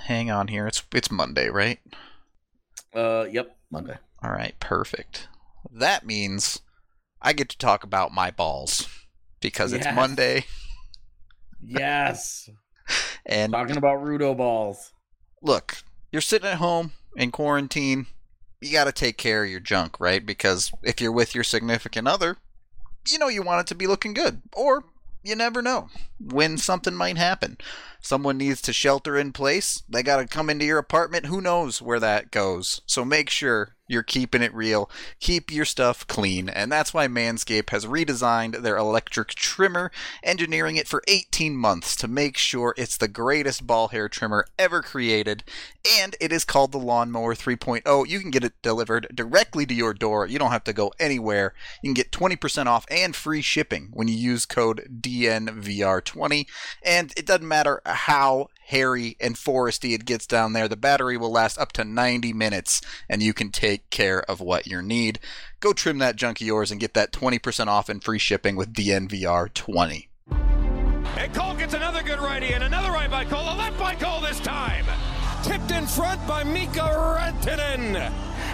hang on here. It's Monday, right? Yep, Monday. All right, perfect. That means I get to talk about my balls because it's Monday. Yes. And talking about Rudo balls. Look, you're sitting at home in quarantine. You got to take care of your junk, right? Because if you're with your significant other, you know you want it to be looking good. Or you never know when something might happen. Someone needs to shelter in place. They got to come into your apartment. Who knows where that goes? So make sure you're keeping it real. Keep your stuff clean. And that's why Manscaped has redesigned their electric trimmer, engineering it for 18 months to make sure it's the greatest ball hair trimmer ever created. And it is called the Lawnmower 3.0. You can get it delivered directly to your door. You don't have to go anywhere. You can get 20% off and free shipping when you use code DNVR20. And it doesn't matter how hairy and foresty it gets down there. The battery will last up to 90 minutes, and you can take care of what you need. Go trim that junk of yours and get that 20% off and free shipping with DNVR20. And Cole gets another good righty, and another right by Cole, a left by Cole this time. Tipped in front by Mika Rantanen.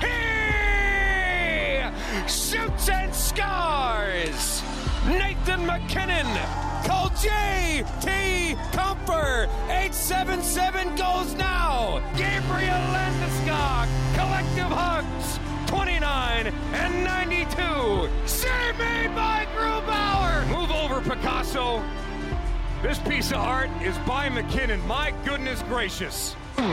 He shoots and scores. Nathan McKinnon. Call J.T. Comfer. 877 goes now. Gabriel Landeskog. Collective hugs. 29 and 92. Save me by Grubauer. Move over, Picasso. This piece of art is by McKinnon. My goodness gracious.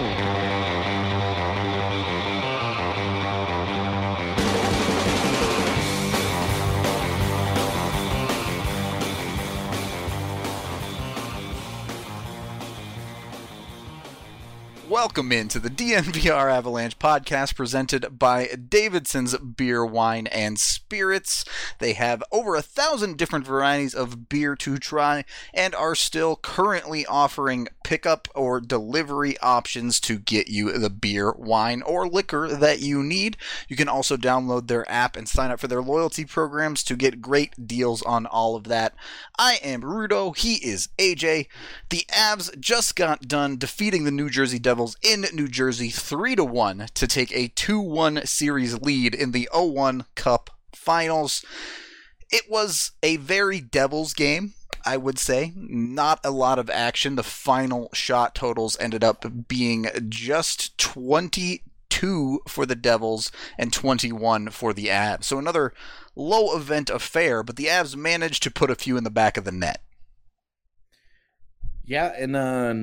Welcome into the DNVR Avalanche podcast presented by Davidson's Beer, Wine, and Spirits. They have over 1,000 different varieties of beer to try and are still currently offering pickup or delivery options to get you the beer, wine, or liquor that you need. You can also download their app and sign up for their loyalty programs to get great deals on all of that. I am Rudo. He is AJ. The Avs just got done defeating the New Jersey Devils in New Jersey 3-1 to take a 2-1 series lead in the 0-1 Cup Finals. It was a very Devils game, I would say. Not a lot of action. The final shot totals ended up being just 22 for the Devils and 21 for the Avs. So another low event affair, but the Avs managed to put a few in the back of the net. Yeah, and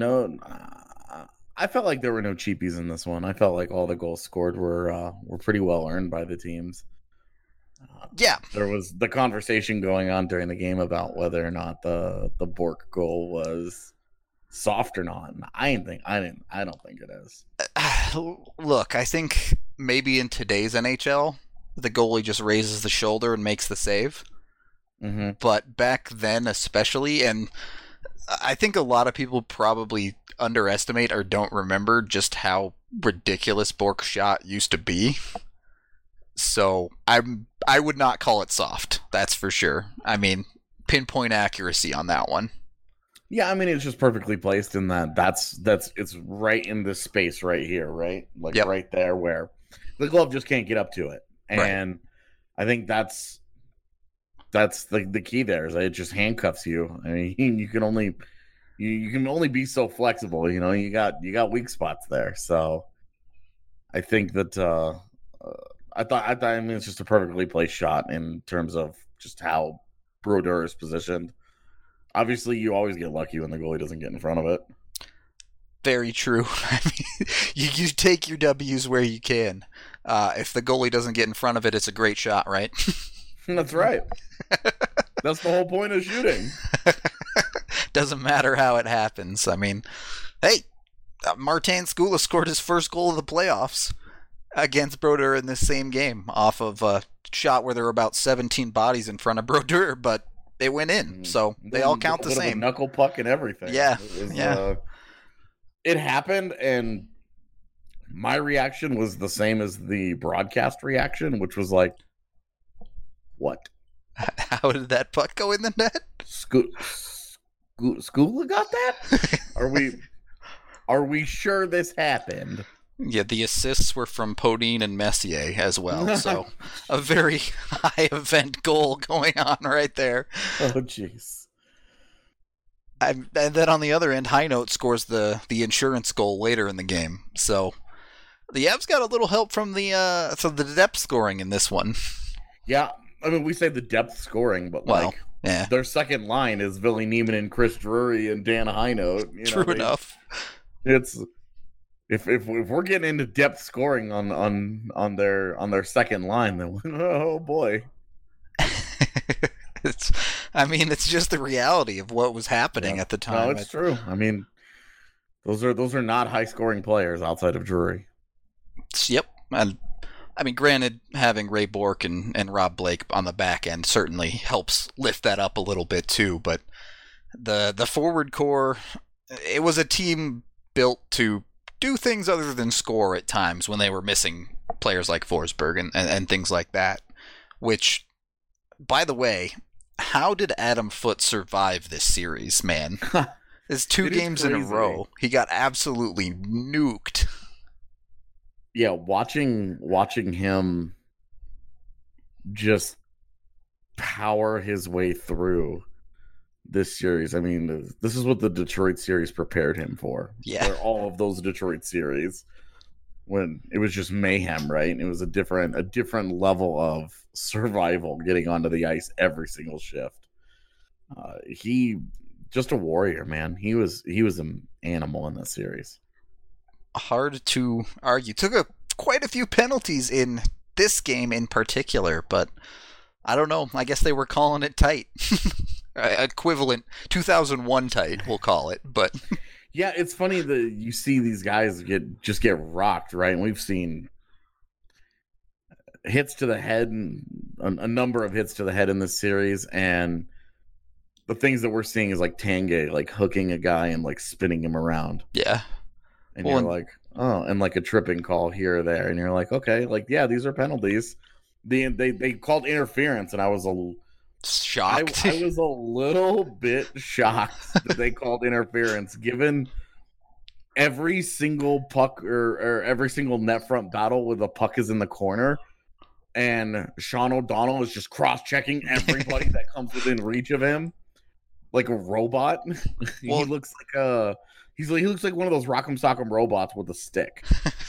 I felt like there were no cheapies in this one. I felt like all the goals scored were pretty well earned by the teams. Yeah, there was the conversation going on during the game about whether or not the Bork goal was soft or not. And I don't think it is. Look, I think maybe in today's NHL, the goalie just raises the shoulder and makes the save. Mm-hmm. But back then, especially, and I think a lot of people probably underestimate or don't remember just how ridiculous Bork's shot used to be. So I would not call it soft, that's for sure. I mean, pinpoint accuracy on that one. Yeah, I mean, it's just perfectly placed in that's it's right in this space right here, right? Like right there where the glove just can't get up to it. And right. I think that's the key there is that it just handcuffs you. I mean, you can only be so flexible, you know. You got weak spots there. So I think that I mean it's just a perfectly placed shot in terms of just how Brodeur is positioned. Obviously, you always get lucky when the goalie doesn't get in front of it. Very true. I mean, you take your W's where you can. If the goalie doesn't get in front of it, it's a great shot, right? That's right. That's the whole point of shooting. Doesn't matter how it happens. I mean, hey, Martin Skula scored his first goal of the playoffs against Brodeur in this same game off of a shot where there were about 17 bodies in front of Brodeur, but they went in, so they all count the same. Knuckle puck and everything. Yeah, it happened, and my reaction was the same as the broadcast reaction, which was like, what? How did that puck go in the net? Skula got that? Are we sure this happened? Yeah, the assists were from Podine and Messier as well, so a very high event goal going on right there. Oh, jeez. And then on the other end, High Note scores the insurance goal later in the game. So the Avs got a little help from the depth scoring in this one. Yeah, I mean, we say the depth scoring, but their second line is Ville Niemann and Chris Drury and Dan High Note. True enough. It's if we're getting into depth scoring on their second line, then oh boy. It's just the reality of what was happening at the time. No, it's true. I mean, those are not high scoring players outside of Drury. Yep. And I mean, granted, having Ray Bourque and Rob Blake on the back end certainly helps lift that up a little bit too, but the forward core, it was a team built to do things other than score at times when they were missing players like Forsberg and things like that, which, by the way, how did Adam Foote survive this series, man? It's 2 games in a row. He got absolutely nuked. Yeah, watching him just power his way through this series. I mean, this is what the Detroit series prepared him for. Yeah. For all of those Detroit series, when it was just mayhem, right? It was a different level of survival getting onto the ice every single shift. He just a warrior, man. He was an animal in this series. Hard to argue. Took quite a few penalties in this game in particular, but I don't know. I guess they were calling it tight. Equivalent 2001 tight, we'll call it. But yeah, it's funny that you see these guys get rocked, right? And we've seen hits to the head, and a number of hits to the head in this series, and the things that we're seeing is like Tanguay like hooking a guy and like spinning him around. Yeah. And you're like, oh, and like a tripping call here or there, and you're like, okay, like yeah, these are penalties. They called interference, and I was shocked. I was a little bit shocked that they called interference, given every single puck or every single net front battle where the puck is in the corner, and Sean O'Donnell is just cross-checking everybody that comes within reach of him like a robot. He looks like he looks like one of those Rock'em Sock'em robots with a stick.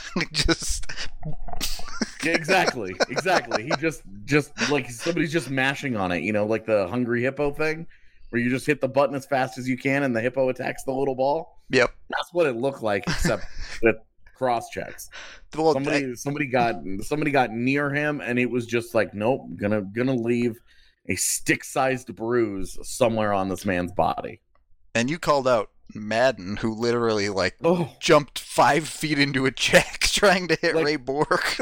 Yeah, exactly. He just like somebody's just mashing on it, like the Hungry Hippo thing, where you just hit the button as fast as you can and the hippo attacks the little ball. Yep, that's what it looked like, except with cross checks. Well, somebody got near him, and it was just like, nope, gonna leave a stick-sized bruise somewhere on this man's body. And you called out Madden, who literally jumped 5 feet into a check trying to hit Ray Bourque.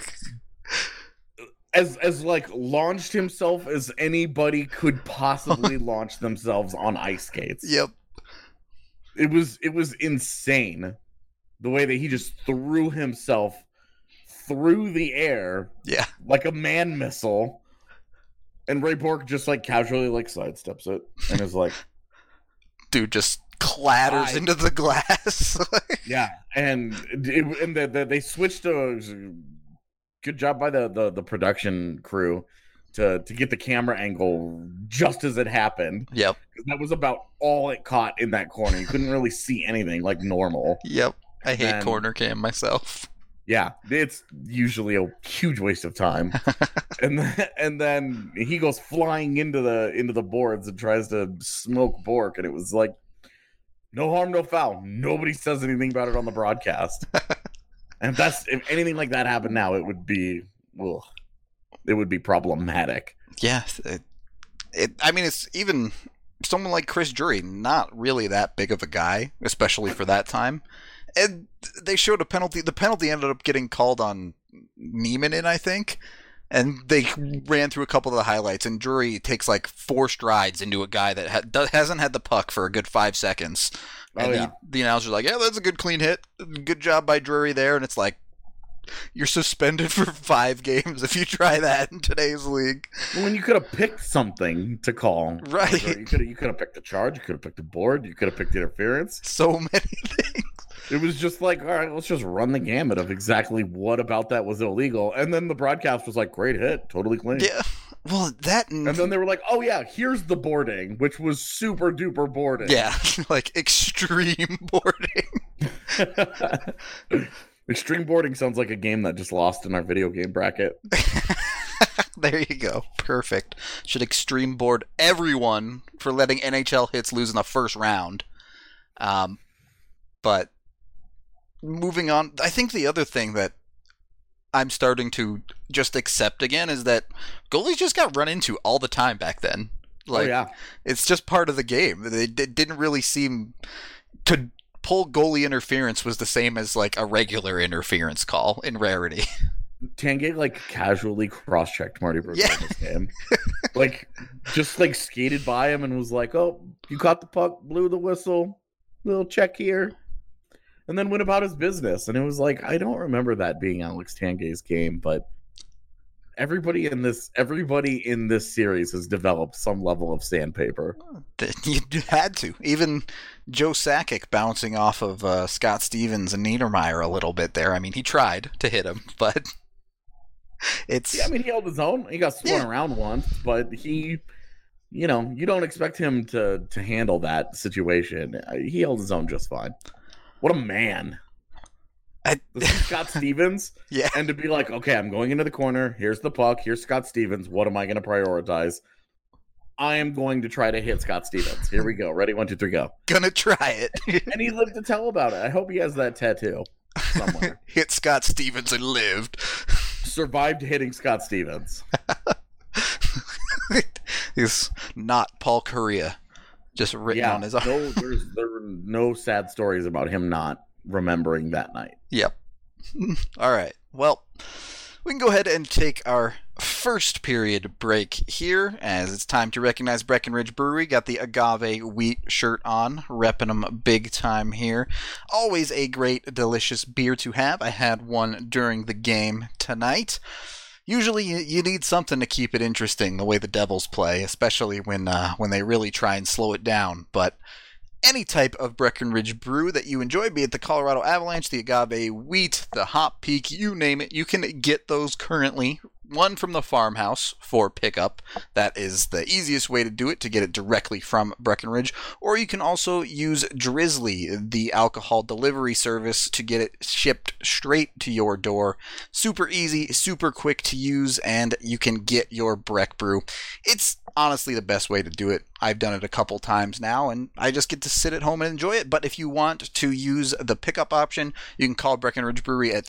as launched himself as anybody could possibly launch themselves on ice skates. Yep. It was insane the way that he just threw himself through the air. Yeah. Like a man missile. And Ray Bourque just casually sidesteps it and is like, dude just clatters into the glass. Yeah, and they switched to good job by the production crew to get the camera angle just as it happened. Yep, that was about all it caught in that corner. You couldn't really see anything like normal. Yep, I hate corner cam myself. Yeah, it's usually a huge waste of time. and then he goes flying into the boards and tries to smoke Bourque, and it was like, no harm, no foul. Nobody says anything about it on the broadcast. And if anything like that happened now, it would be problematic. Yeah, it's even someone like Chris Drury, not really that big of a guy, especially for that time. And they showed a penalty. The penalty ended up getting called on Niemann, I think. And they ran through a couple of the highlights, and Drury takes 4 strides into a guy that hasn't had the puck for a good 5 seconds. And the announcer's like, yeah, that's a good clean hit. Good job by Drury there. And it's like, you're suspended for 5 games if you try that in today's league. When you could have picked something to call. Right. You could have picked a charge. You could have picked a board. You could have picked interference. So many things. It was just like, all right, let's just run the gamut of exactly what about that was illegal. And then the broadcast was like, great hit, totally clean. Yeah. Well, that... And then they were like, oh yeah, here's the boarding, which was super duper boarding. Yeah, like extreme boarding. Extreme boarding sounds like a game that just lost in our video game bracket. There you go. Perfect. Should extreme board everyone for letting NHL hits lose in the first round. But moving on, I think the other thing that I'm starting to just accept again is that goalies just got run into all the time back then. Like, it's just part of the game. It didn't really seem to pull goalie interference was the same as like a regular interference call in rarity. Tanguay like casually cross-checked Marty Brodeur in this game. Like, just like skated by him and was like, oh, you caught the puck, blew the whistle, little check here. And then went about his business. And it was like, I don't remember that being Alex Tanguay's game, but everybody in this series has developed some level of sandpaper. You had to. Even Joe Sakic bouncing off of Scott Stevens and Niedermeyer a little bit there. I mean, he tried to hit him, but it's... Yeah, I mean, he held his own. He got swung around once, but he... You know, you don't expect him to handle that situation. He held his own just fine. What a man. This is Scott Stevens. Yeah. And to be like, okay, I'm going into the corner. Here's the puck. Here's Scott Stevens. What am I going to prioritize? I am going to try to hit Scott Stevens. Here we go. Ready? 1, 2, 3, go. Gonna try it. And he lived to tell about it. I hope he has that tattoo somewhere. Hit Scott Stevens and lived. Survived hitting Scott Stevens. He's not Paul Correa. Just written on his arm. There were no sad stories about him not remembering that night. Yep. All right. Well, we can go ahead and take our first period break here, as it's time to recognize Breckenridge Brewery. Got the agave wheat shirt on, repping them big time here. Always a great, delicious beer to have. I had one during the game tonight. Usually you need something to keep it interesting the way the Devils play, especially when they really try and slow it down. But any type of Breckenridge brew that you enjoy, be it the Colorado Avalanche, the Agave Wheat, the Hop Peak, you name it, you can get those currently. One from the farmhouse for pickup. That is the easiest way to do it, to get it directly from Breckenridge. Or you can also use Drizzly, the alcohol delivery service, to get it shipped straight to your door. Super easy, super quick to use, and you can get your Breck brew. It's honestly the best way to do it. I've done it a couple times now, and I just get to sit at home and enjoy it. But if you want to use the pickup option, you can call Breckenridge Brewery at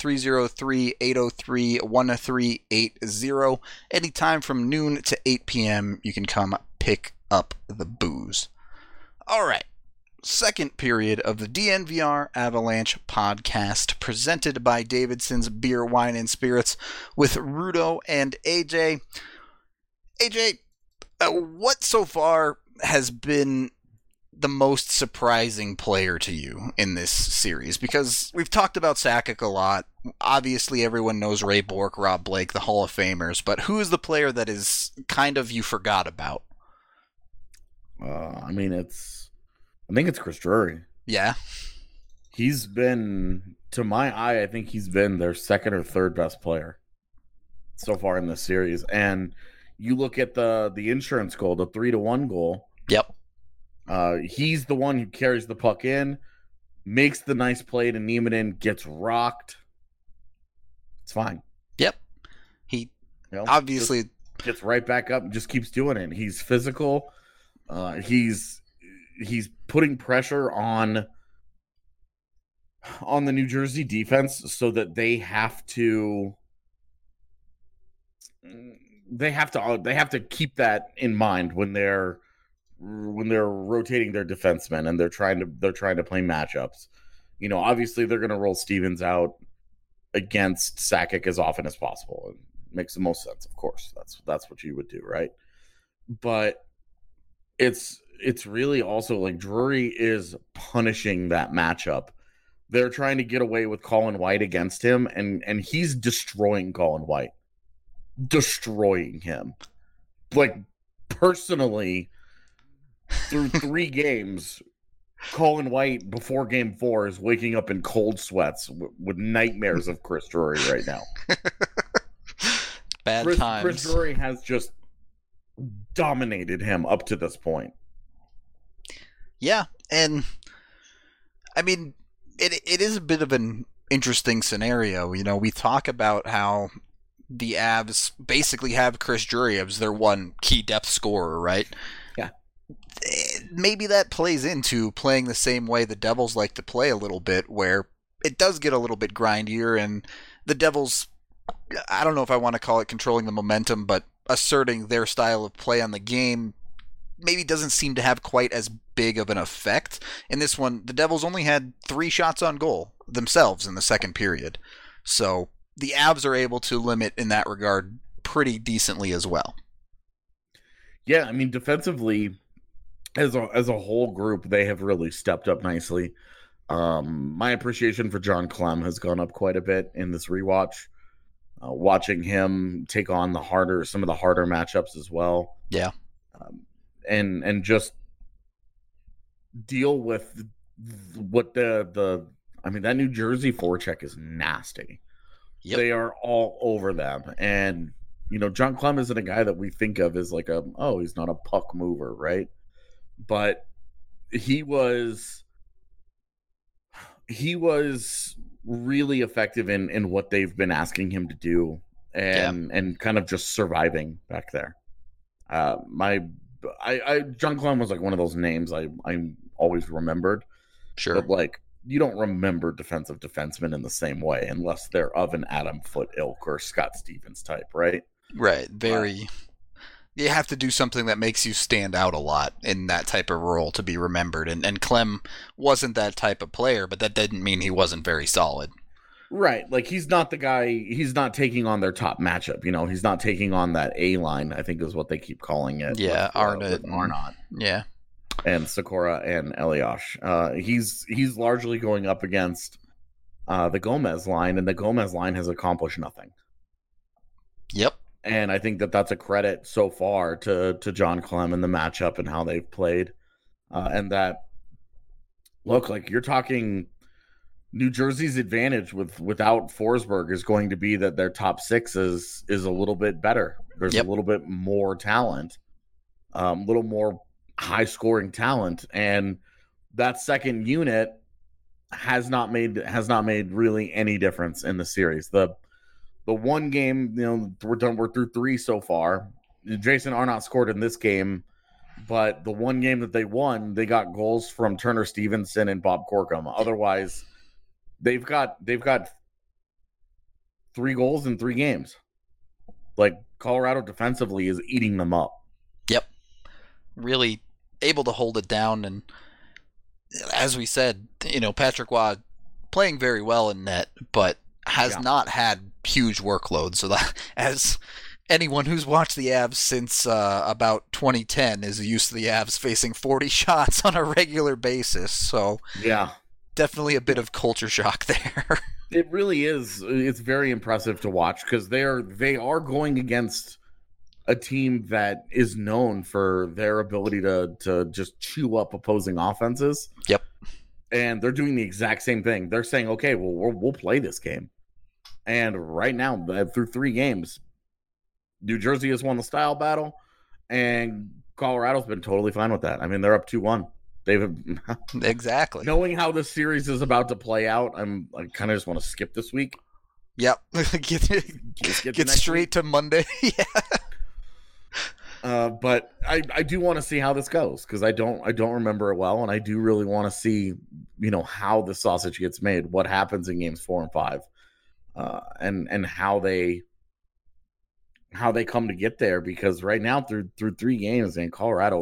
303-803-1380. Anytime from noon to 8 p.m., you can come pick up the booze. All right. Second period of the DNVR Avalanche podcast, presented by Davidson's Beer, Wine, and Spirits, with Rudo and AJ. AJ, what so far has been the most surprising player to you in this series? Because we've talked about Sakic a lot. Obviously, everyone knows Ray Bourque, Rob Blake, the Hall of Famers. But who is the player that is kind of you forgot about? I think it's Chris Drury. Yeah. He's been, to my eye, I think he's been their second or third best player so far in this series. And you look at the insurance goal, the 3-1 goal. Yep. He's the one who carries the puck in, makes the nice play to Nieminen, gets rocked. It's fine. Yep. He obviously gets right back up and just keeps doing it. He's physical. He's putting pressure on the New Jersey defense so that they have to keep that in mind when they're rotating their defensemen and they're trying to play matchups. You know, obviously they're going to roll Stevens out against Sakic as often as possible. It makes the most sense, of course. That's what you would do, right? But it's really also like Drury is punishing that matchup. They're trying to get away with Colin White against him, and he's destroying Colin White. Destroying him. Like, personally, through 3 games, Colin White, before Game 4, is waking up in cold sweats with nightmares of Chris Drury right now. Bad times. Chris Drury has just dominated him up to this point. Yeah, and I mean, it is a bit of an interesting scenario. You know, we talk about how the Avs basically have Chris Drury as their one key depth scorer, right? Yeah. Maybe that plays into playing the same way the Devils like to play a little bit, where it does get a little bit grindier, and the Devils, I don't know if I want to call it controlling the momentum, but asserting their style of play on the game maybe doesn't seem to have quite as big of an effect. In this one, the Devils only had 3 shots on goal themselves in the second period. So the Avs are able to limit in that regard pretty decently as well. Yeah, I mean, defensively, as a whole group, they have really stepped up nicely. My appreciation for John Clem has gone up quite a bit in this rewatch. Watching him take on some of the harder matchups as well. Yeah. And just deal with what I mean, that New Jersey forecheck is nasty. Yep. They are all over them. And, you know, John Clem isn't a guy that we think of as like he's not a puck mover, right? But he was really effective in what they've been asking him to do and kind of just surviving back there. John Clem was like one of those names I always remembered. Sure. But like, you don't remember defensive defensemen in the same way unless they're of an Adam Foote ilk or Scott Stevens type, right? Right. You have to do something that makes you stand out a lot in that type of role to be remembered. And Clem wasn't that type of player, but that didn't mean he wasn't very solid. Right. Like, he's not the guy, he's not taking on their top matchup, you know, he's not taking on that A line, I think is what they keep calling it. Yeah, Arnott. Yeah. And Sikora and Elias. He's largely going up against the Gomez line, and the Gomez line has accomplished nothing. Yep. And I think that's a credit so far to John Clem and the matchup and how they've played. And that, look, like, you're talking New Jersey's advantage without Forsberg is going to be that their top 6 is a little bit better. There's a little bit more talent, a little more high-scoring talent. And that second unit has not made really any difference in the series. The one game, you know, we're through 3 so far. Jason Arnott scored in this game, but the one game that they won, they got goals from Turner Stevenson and Bob Corkum. Otherwise, they've got 3 goals in 3 games. Like, Colorado defensively is eating them up. Yep. Really able to hold it down, and as we said, you know, Patrick Waugh playing very well in net, but has not had huge workload. So that, as anyone who's watched the Avs since about 2010 is used to the Avs facing 40 shots on a regular basis. So yeah, definitely a bit of culture shock there. It really is. It's very impressive to watch because they are going against a team that is known for their ability to just chew up opposing offenses. Yep. And they're doing the exact same thing. They're saying, okay, well, we'll play this game. And right now, through 3 games, New Jersey has won the style battle, and Colorado's been totally fine with that. I mean, they're up 2-1. They've exactly. Knowing how this series is about to play out, I kind of just want to skip this week. Yep. get straight week to Monday. Yeah. But I do want to see how this goes because I don't remember it well, and I do really want to see, you know, how the sausage gets made, what happens in games 4 and 5, and how they come to get there. Because right now through 3 games, and Colorado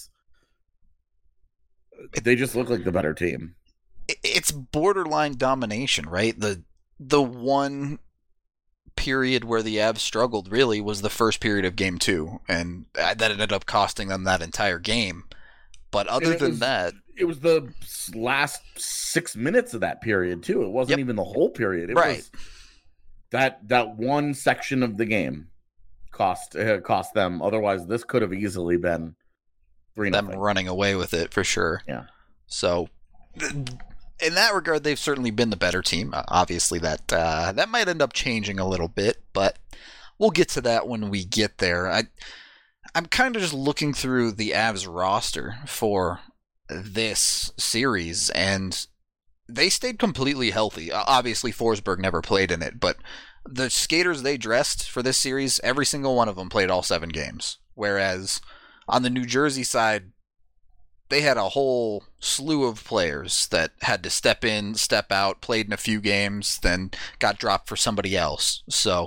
they just look like the better team. It's borderline domination, right? The one period where the Avs struggled really was the first period of game 2, and that ended up costing them that entire game. But other than that, it was the last 6 minutes of that period too. It wasn't even the whole period. It was that one section of the game cost them. Otherwise, this could have easily been 3-0. Them running away with it for sure. Yeah. So, in that regard, they've certainly been the better team. Obviously, that might end up changing a little bit, but we'll get to that when we get there. I'm kind of just looking through the Avs roster for this series, and they stayed completely healthy. Obviously, Forsberg never played in it, but the skaters they dressed for this series, every single one of them played all 7 games. Whereas on the New Jersey side, they had a whole slew of players that had to step in, step out, played in a few games, then got dropped for somebody else. So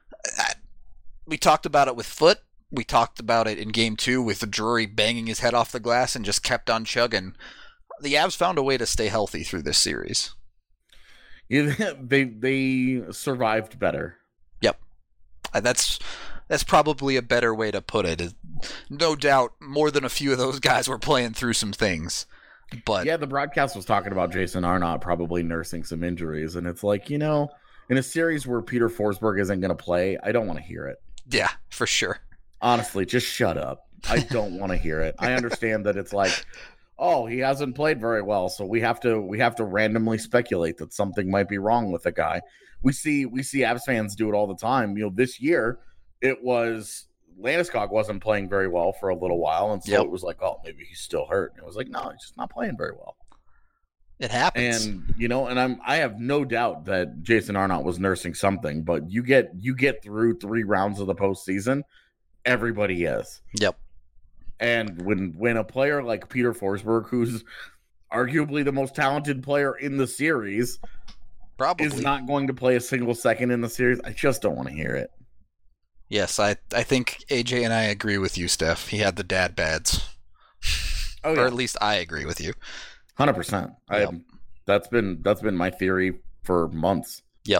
we talked about it with Foote. We talked about it in Game 2 with Drury banging his head off the glass and just kept on chugging. The Avs found a way to stay healthy through this series. Yeah, they survived better. Yep. That's probably a better way to put it. No doubt more than a few of those guys were playing through some things. But yeah, the broadcast was talking about Jason Arnott probably nursing some injuries, and it's like, in a series where Peter Forsberg isn't going to play, I don't want to hear it. Yeah, for sure. Honestly, just shut up. I don't want to hear it. I understand that it's like, oh, he hasn't played very well, so we have to randomly speculate that something might be wrong with the guy. We see Avs fans do it all the time. This year it was Landeskog wasn't playing very well for a little while, and so It was like, oh, maybe he's still hurt. And it was like, no, he's just not playing very well. It happens. And I have no doubt that Jason Arnott was nursing something, but you get through 3 rounds of the postseason, everybody is. Yep. And when a player like Peter Forsberg, who's arguably the most talented player in the series, probably is not going to play a single second in the series, I just don't want to hear it. Yes, I think AJ and I agree with you, Steph. He had the dad bads. Oh, yeah. Or at least I agree with you. 100%. Yep. That's been my theory for months. Yep.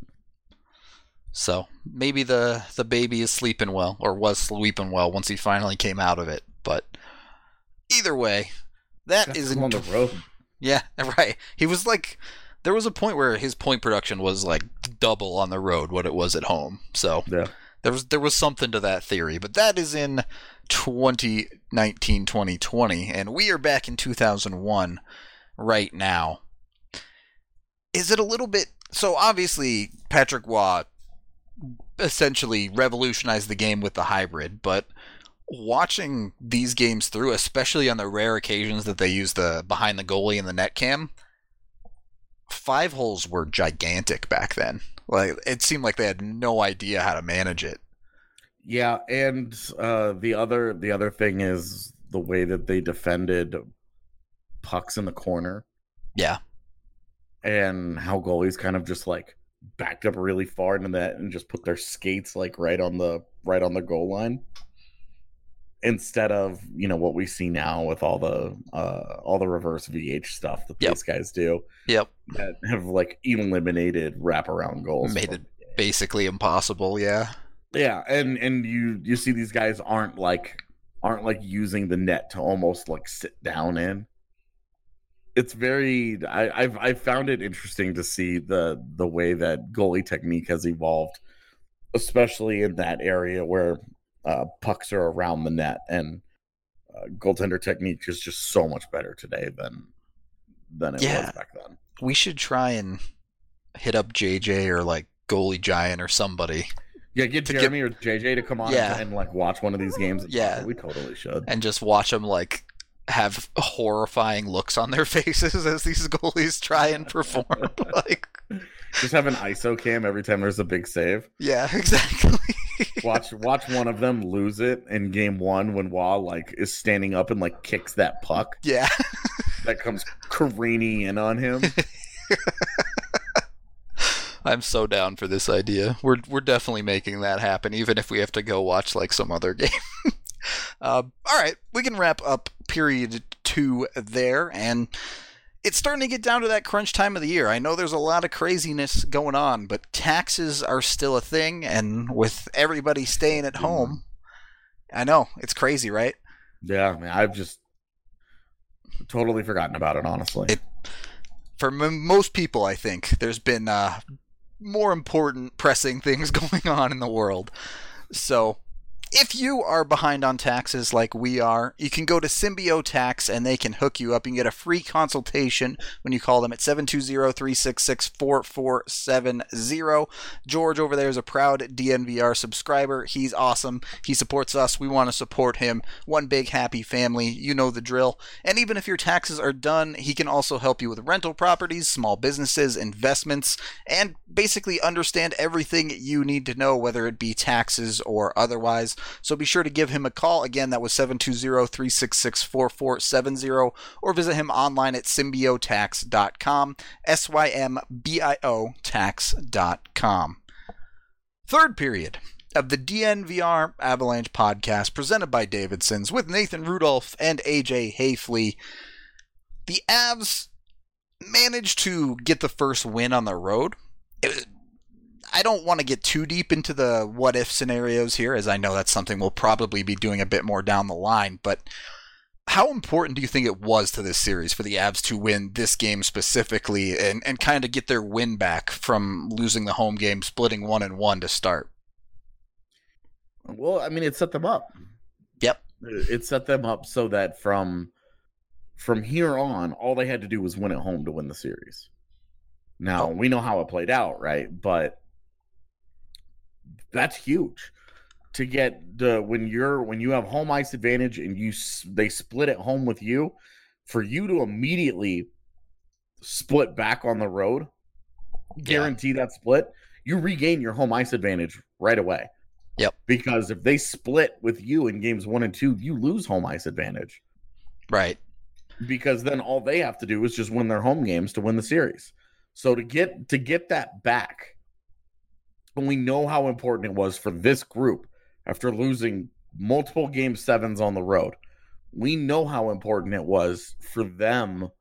So maybe the baby is sleeping well, or was sleeping well once he finally came out of it. But either way, that's on the road. Yeah, right. He was like, there was a point where his point production was like double on the road what it was at home. So yeah. There was something to that theory, but that is in 2019-2020, and we are back in 2001 right now. Is it a little bit... So obviously, Patrick Waugh essentially revolutionized the game with the hybrid, but watching these games through, especially on the rare occasions that they use the behind the goalie and the net cam, 5 holes were gigantic back then. Like, it seemed like they had no idea how to manage it. Yeah, and the other thing is the way that they defended pucks in the corner. Yeah. And how goalies kind of just like backed up really far into that and just put their skates like right on the goal line. Instead of, what we see now with all the reverse VH stuff that these guys do. Yep. That have like eliminated wraparound goals. Made it basically impossible, yeah. Yeah, and you see these guys aren't like using the net to almost like sit down in. It's very I've found it interesting to see the way that goalie technique has evolved, especially in that area where pucks are around the net, and goaltender technique is just so much better today than it was back then. We should try and hit up JJ or like Goalie Giant or somebody. Yeah, get Jeremy or JJ to come on and like watch one of these games. Yeah, we totally should. And just watch them like have horrifying looks on their faces as these goalies try and perform. Like, just have an ISO cam every time there's a big save. Yeah, exactly. Watch one of them lose it in game 1 when Waugh like is standing up and like kicks that puck. Yeah. That comes careening in on him. I'm so down for this idea. We're definitely making that happen, even if we have to go watch like some other game. All right, we can wrap up period 2 there, and it's starting to get down to that crunch time of the year. I know there's a lot of craziness going on, but taxes are still a thing, and with everybody staying at home, I know, it's crazy, right? Yeah, man, I've just totally forgotten about it, honestly. For most people, I think, there's been more important, pressing things going on in the world. So, If you are behind on taxes like we are, you can go to Symbio Tax and they can hook you up. You can get a free consultation when you call them at 720-366-4470. George over there is a proud DNVR subscriber. He's awesome. He supports us. We want to support him. One big happy family. You know the drill. And even if your taxes are done, he can also help you with rental properties, small businesses, investments, and basically understand everything you need to know, whether it be taxes or otherwise. So be sure to give him a call. Again, that was 720-366-4470, or visit him online at symbiotax.com, SYMBIO tax.com. Third period of the DNVR Avalanche podcast presented by Davidson's with Nathan Rudolph and AJ Hayfley. The Avs managed to get the first win on the road. I don't want to get too deep into the what-if scenarios here, as I know that's something we'll probably be doing a bit more down the line, but how important do you think it was to this series for the Avs to win this game specifically and kind of get their win back from losing the home game, splitting 1-1 to start? Well, I mean, it set them up. Yep. It set them up so that from here on, all they had to do was win at home to win the series. Now, we know how it played out, right? But that's huge to get when you have home ice advantage and they split at home with you, for you to immediately split back on the road, guarantee that split, you regain your home ice advantage right away. Yep. Because if they split with you in games 1 and 2, you lose home ice advantage. Right. Because then all they have to do is just win their home games to win the series. So to get that back, and we know how important it was for this group after losing multiple game 7s on the road. We know how important it was for them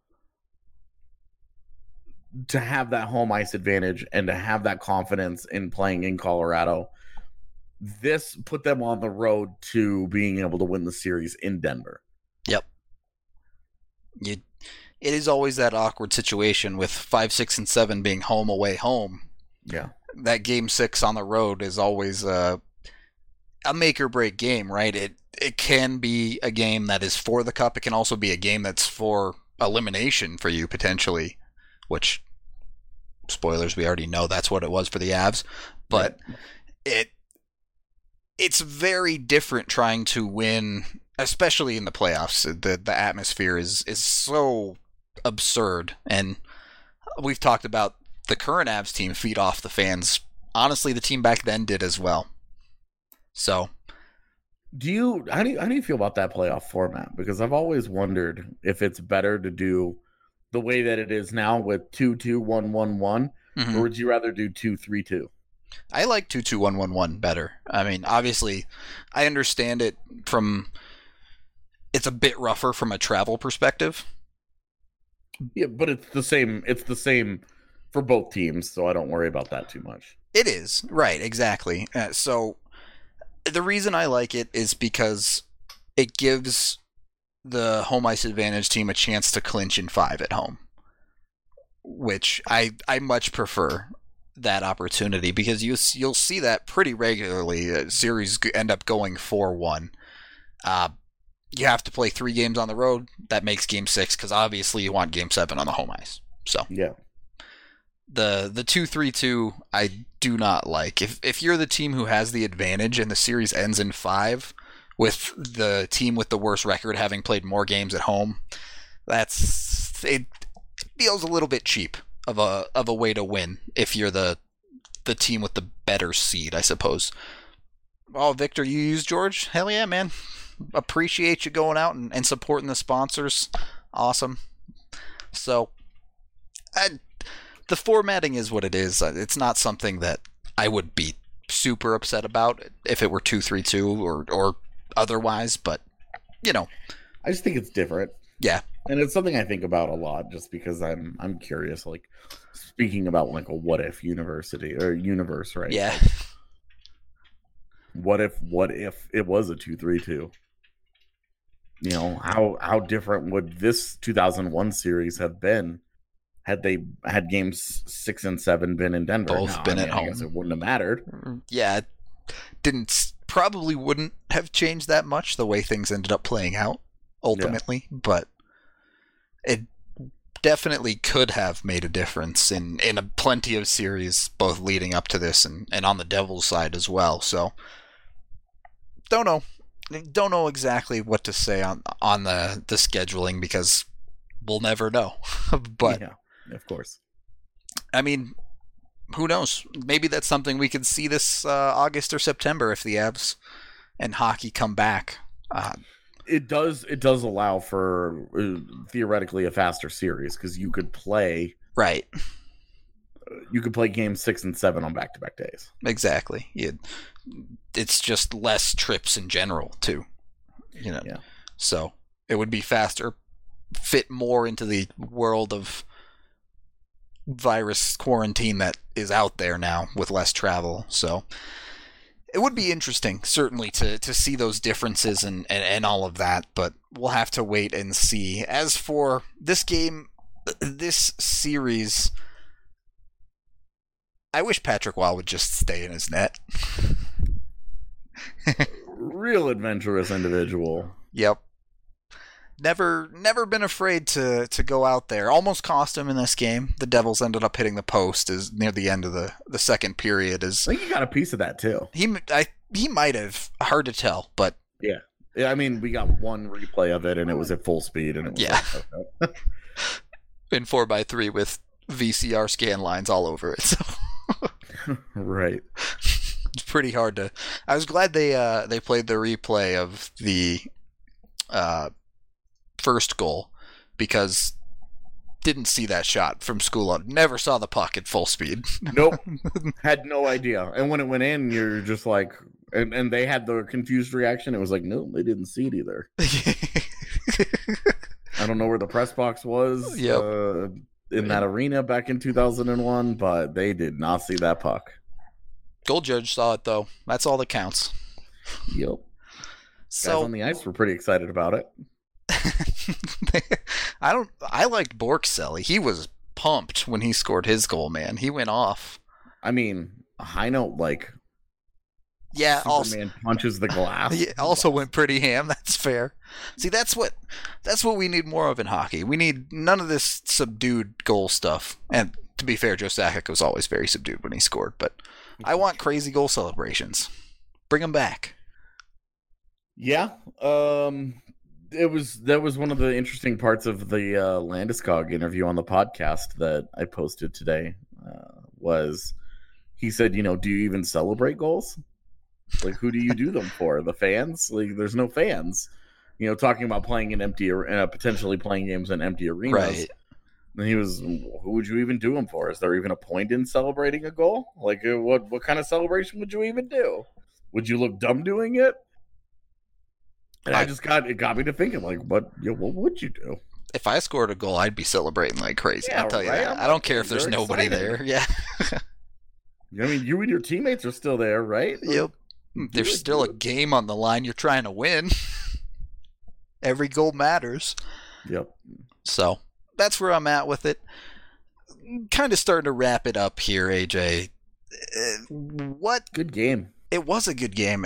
to have that home ice advantage and to have that confidence in playing in Colorado. This put them on the road to being able to win the series in Denver. Yep. It is always that awkward situation with 5, 6, and 7 being home, away, home. Yeah. That game 6 on the road is always a make or break game, right? It can be a game that is for the cup. It can also be a game that's for elimination for you potentially, which, spoilers, we already know that's what it was for the Avs. But it's very different trying to win, especially in the playoffs. The atmosphere is so absurd, and we've talked about the current Avs team feed off the fans. Honestly, the team back then did as well. So, how do you feel about that playoff format? Because I've always wondered if it's better to do the way that it is now with 2-2, 1-1-1, or would you rather do 2-3-2? I like 2-2-1-1-1 better. I mean, obviously, I understand it it's a bit rougher from a travel perspective. Yeah, but it's the same for both teams, so I don't worry about that too much. It is, right, exactly. So the reason I like it is because it gives the home ice advantage team a chance to clinch in 5 at home, which I much prefer that opportunity, because you'll see that pretty regularly. Series end up going 4-1. You have to play 3 games on the road. That makes game 6, because obviously you want game 7 on the home ice. So yeah, the 2-3-2 I do not like. If you're the team who has the advantage and the series ends in 5, with the team with the worst record having played more games at home, it feels a little bit cheap of a way to win if you're the team with the better seed, I suppose. Oh, Victor, you use George? Hell yeah, man. Appreciate you going out and supporting the sponsors. Awesome. So, the formatting is what it is. It's not something that I would be super upset about if it were 2-3-2 or otherwise, but, you know. I just think it's different. Yeah. And it's something I think about a lot just because I'm curious, like, speaking about like a what if universe, right? Yeah. What if it was a 2-3-2? You know, how different would this 2001 series have been had they had games 6 and 7 been in Denver? Both been at home. I guess it wouldn't have mattered. Yeah, it didn't probably wouldn't have changed that much the way things ended up playing out ultimately, but it definitely could have made a difference in plenty of series, both leading up to this and on the Devils side as well. So, don't know exactly what to say on the scheduling because we'll never know. But yeah, of course. I mean, who knows? Maybe that's something we can see this August or September if the Avs and hockey come back. It does allow for theoretically a faster series because you could play games 6 and 7 on back-to-back days. Exactly. It's just less trips in general too. Yeah. So it would be faster, fit more into the world of virus quarantine that is out there now with less travel. So it would be interesting, certainly, to see those differences and all of that, but we'll have to wait and see. As for this game, this series, I wish Patrick Waugh would just stay in his net. Real adventurous individual. Yep. Never been afraid to go out there. Almost cost him in this game. The Devils ended up hitting the post as near the end of the second period. I think he got a piece of that too. He might have. Hard to tell, but yeah. I mean, we got one replay of it, and it was at full speed, and it was okay. In 4x3 with VCR scan lines all over it. So. Right. It's pretty hard to. I was glad they played the replay of the first goal because didn't see that shot from Skulo. Never saw the puck at full speed. Nope. Had no idea. And when it went in, you're just like, and they had the confused reaction. It was like, no, they didn't see it either. I don't know where the press box was in that arena back in 2001, but they did not see that puck. Goal judge saw it though. That's all that counts. Yep. So guys on the ice were pretty excited about it. I liked Borkselli. He was pumped when he scored his goal, man. He went off. I mean, a high note like yeah, Superman punches the glass. He also went pretty ham. That's fair. See, that's what we need more of in hockey. We need none of this subdued goal stuff. And to be fair, Joe Sakic was always very subdued when he scored, but I want crazy goal celebrations. Bring them back. Yeah. That was one of the interesting parts of the Landeskog interview on the podcast that I posted today. Was he said, do you even celebrate goals? Like, who do you do them for? The fans? Like, there's no fans. Talking about playing in empty, potentially playing games in empty arenas. Right. And he was, who would you even do them for? Is there even a point in celebrating a goal? Like, what kind of celebration would you even do? Would you look dumb doing it? And it got me to thinking, like, what would you do? If I scored a goal, I'd be celebrating like crazy. Yeah, I'll tell you that. I don't care if there's nobody there. Yeah. I mean, you and your teammates are still there, right? Yep. There's still a game on the line you're trying to win. Every goal matters. Yep. So that's where I'm at with it. Kind of starting to wrap it up here, AJ. Good game. It was a good game.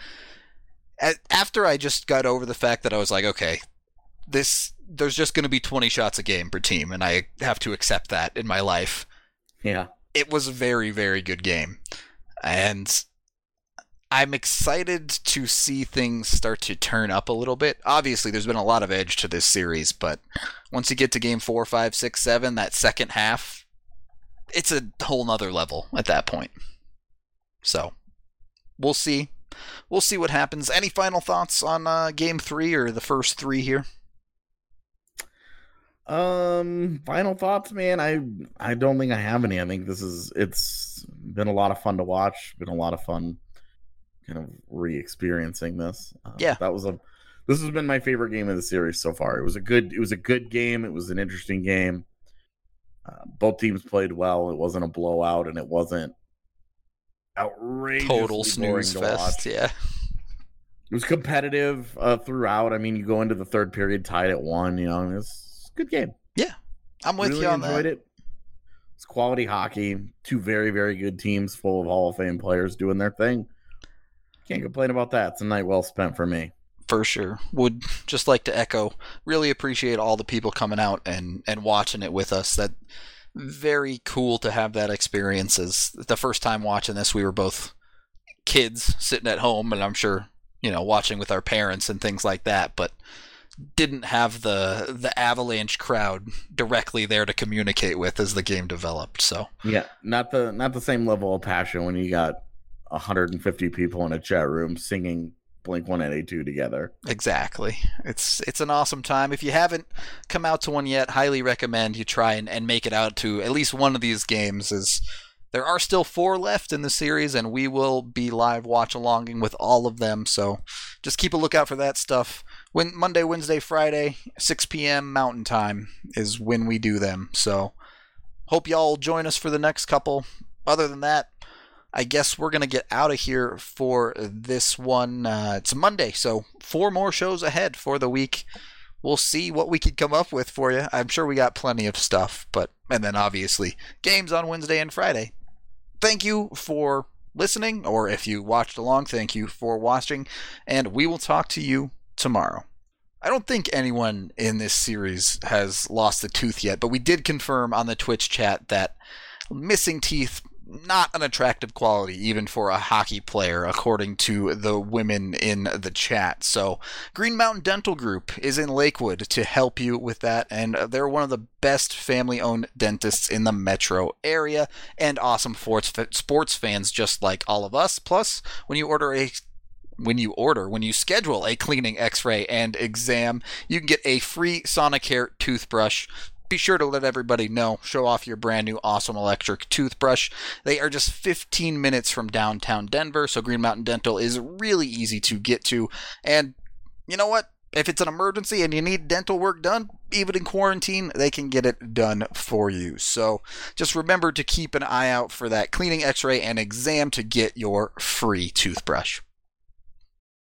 After I just got over the fact that I was like, okay, there's just going to be 20 shots a game per team, and I have to accept that in my life. Yeah. It was a very, very good game. And I'm excited to see things start to turn up a little bit. Obviously, there's been a lot of edge to this series, but once you get to game 4, 5, 6, 7, that second half, it's a whole nother level at that point. So, we'll see. We'll see what happens. Any final thoughts on game 3 or the first 3 here? Final thoughts, man. I don't think I have any. I think it's been a lot of fun to watch. Been a lot of fun kind of re-experiencing this. Yeah. This has been my favorite game of the series so far. It was a good game. It was an interesting game. Both teams played well. It wasn't a blowout, and it wasn't outrageous. Total snooze fest. Yeah. It was competitive throughout. I mean, you go into the third period tied at 1. It's a good game. Yeah, I'm with you on that. Enjoyed it. It's quality hockey. 2 very, very good teams full of Hall of Fame players doing their thing. Can't complain about that. It's a night well spent for me. For sure. Would just like to echo, really appreciate all the people coming out and watching it with us. That very cool to have that experience. As the first time watching this, we were both kids sitting at home, and I'm sure, watching with our parents and things like that, but didn't have the Avalanche crowd directly there to communicate with as the game developed. So yeah, not the same level of passion when you got 150 people in a chat room singing Blink-182 together. Exactly. It's an awesome time. If you haven't come out to one yet, highly recommend you try and make it out to at least one of these games. As there are still 4 left in the series, and we will be live watch-alonging with all of them, so just keep a lookout for that stuff. Monday, Wednesday, Friday, 6 p.m. Mountain Time is when we do them, so hope y'all will join us for the next couple. Other than that, I guess we're going to get out of here for this one. It's Monday, so 4 more shows ahead for the week. We'll see what we can come up with for you. I'm sure we got plenty of stuff, and then obviously games on Wednesday and Friday. Thank you for listening, or if you watched along, thank you for watching, and we will talk to you tomorrow. I don't think anyone in this series has lost a tooth yet, but we did confirm on the Twitch chat that missing teeth, not an attractive quality even for a hockey player, according to the women in the chat. So Green Mountain Dental Group is in Lakewood to help you with that, and they're one of the best family-owned dentists in the metro area, and awesome sports fans just like all of us. Plus, when you schedule a cleaning, x-ray, and exam, you can get a free Sonicare toothbrush. Be sure to let everybody know. Show off your brand new awesome electric toothbrush. They are just 15 minutes from downtown Denver, so Green Mountain Dental is really easy to get to. And you know what? If it's an emergency and you need dental work done, even in quarantine, they can get it done for you. So just remember to keep an eye out for that cleaning, x-ray, and exam to get your free toothbrush.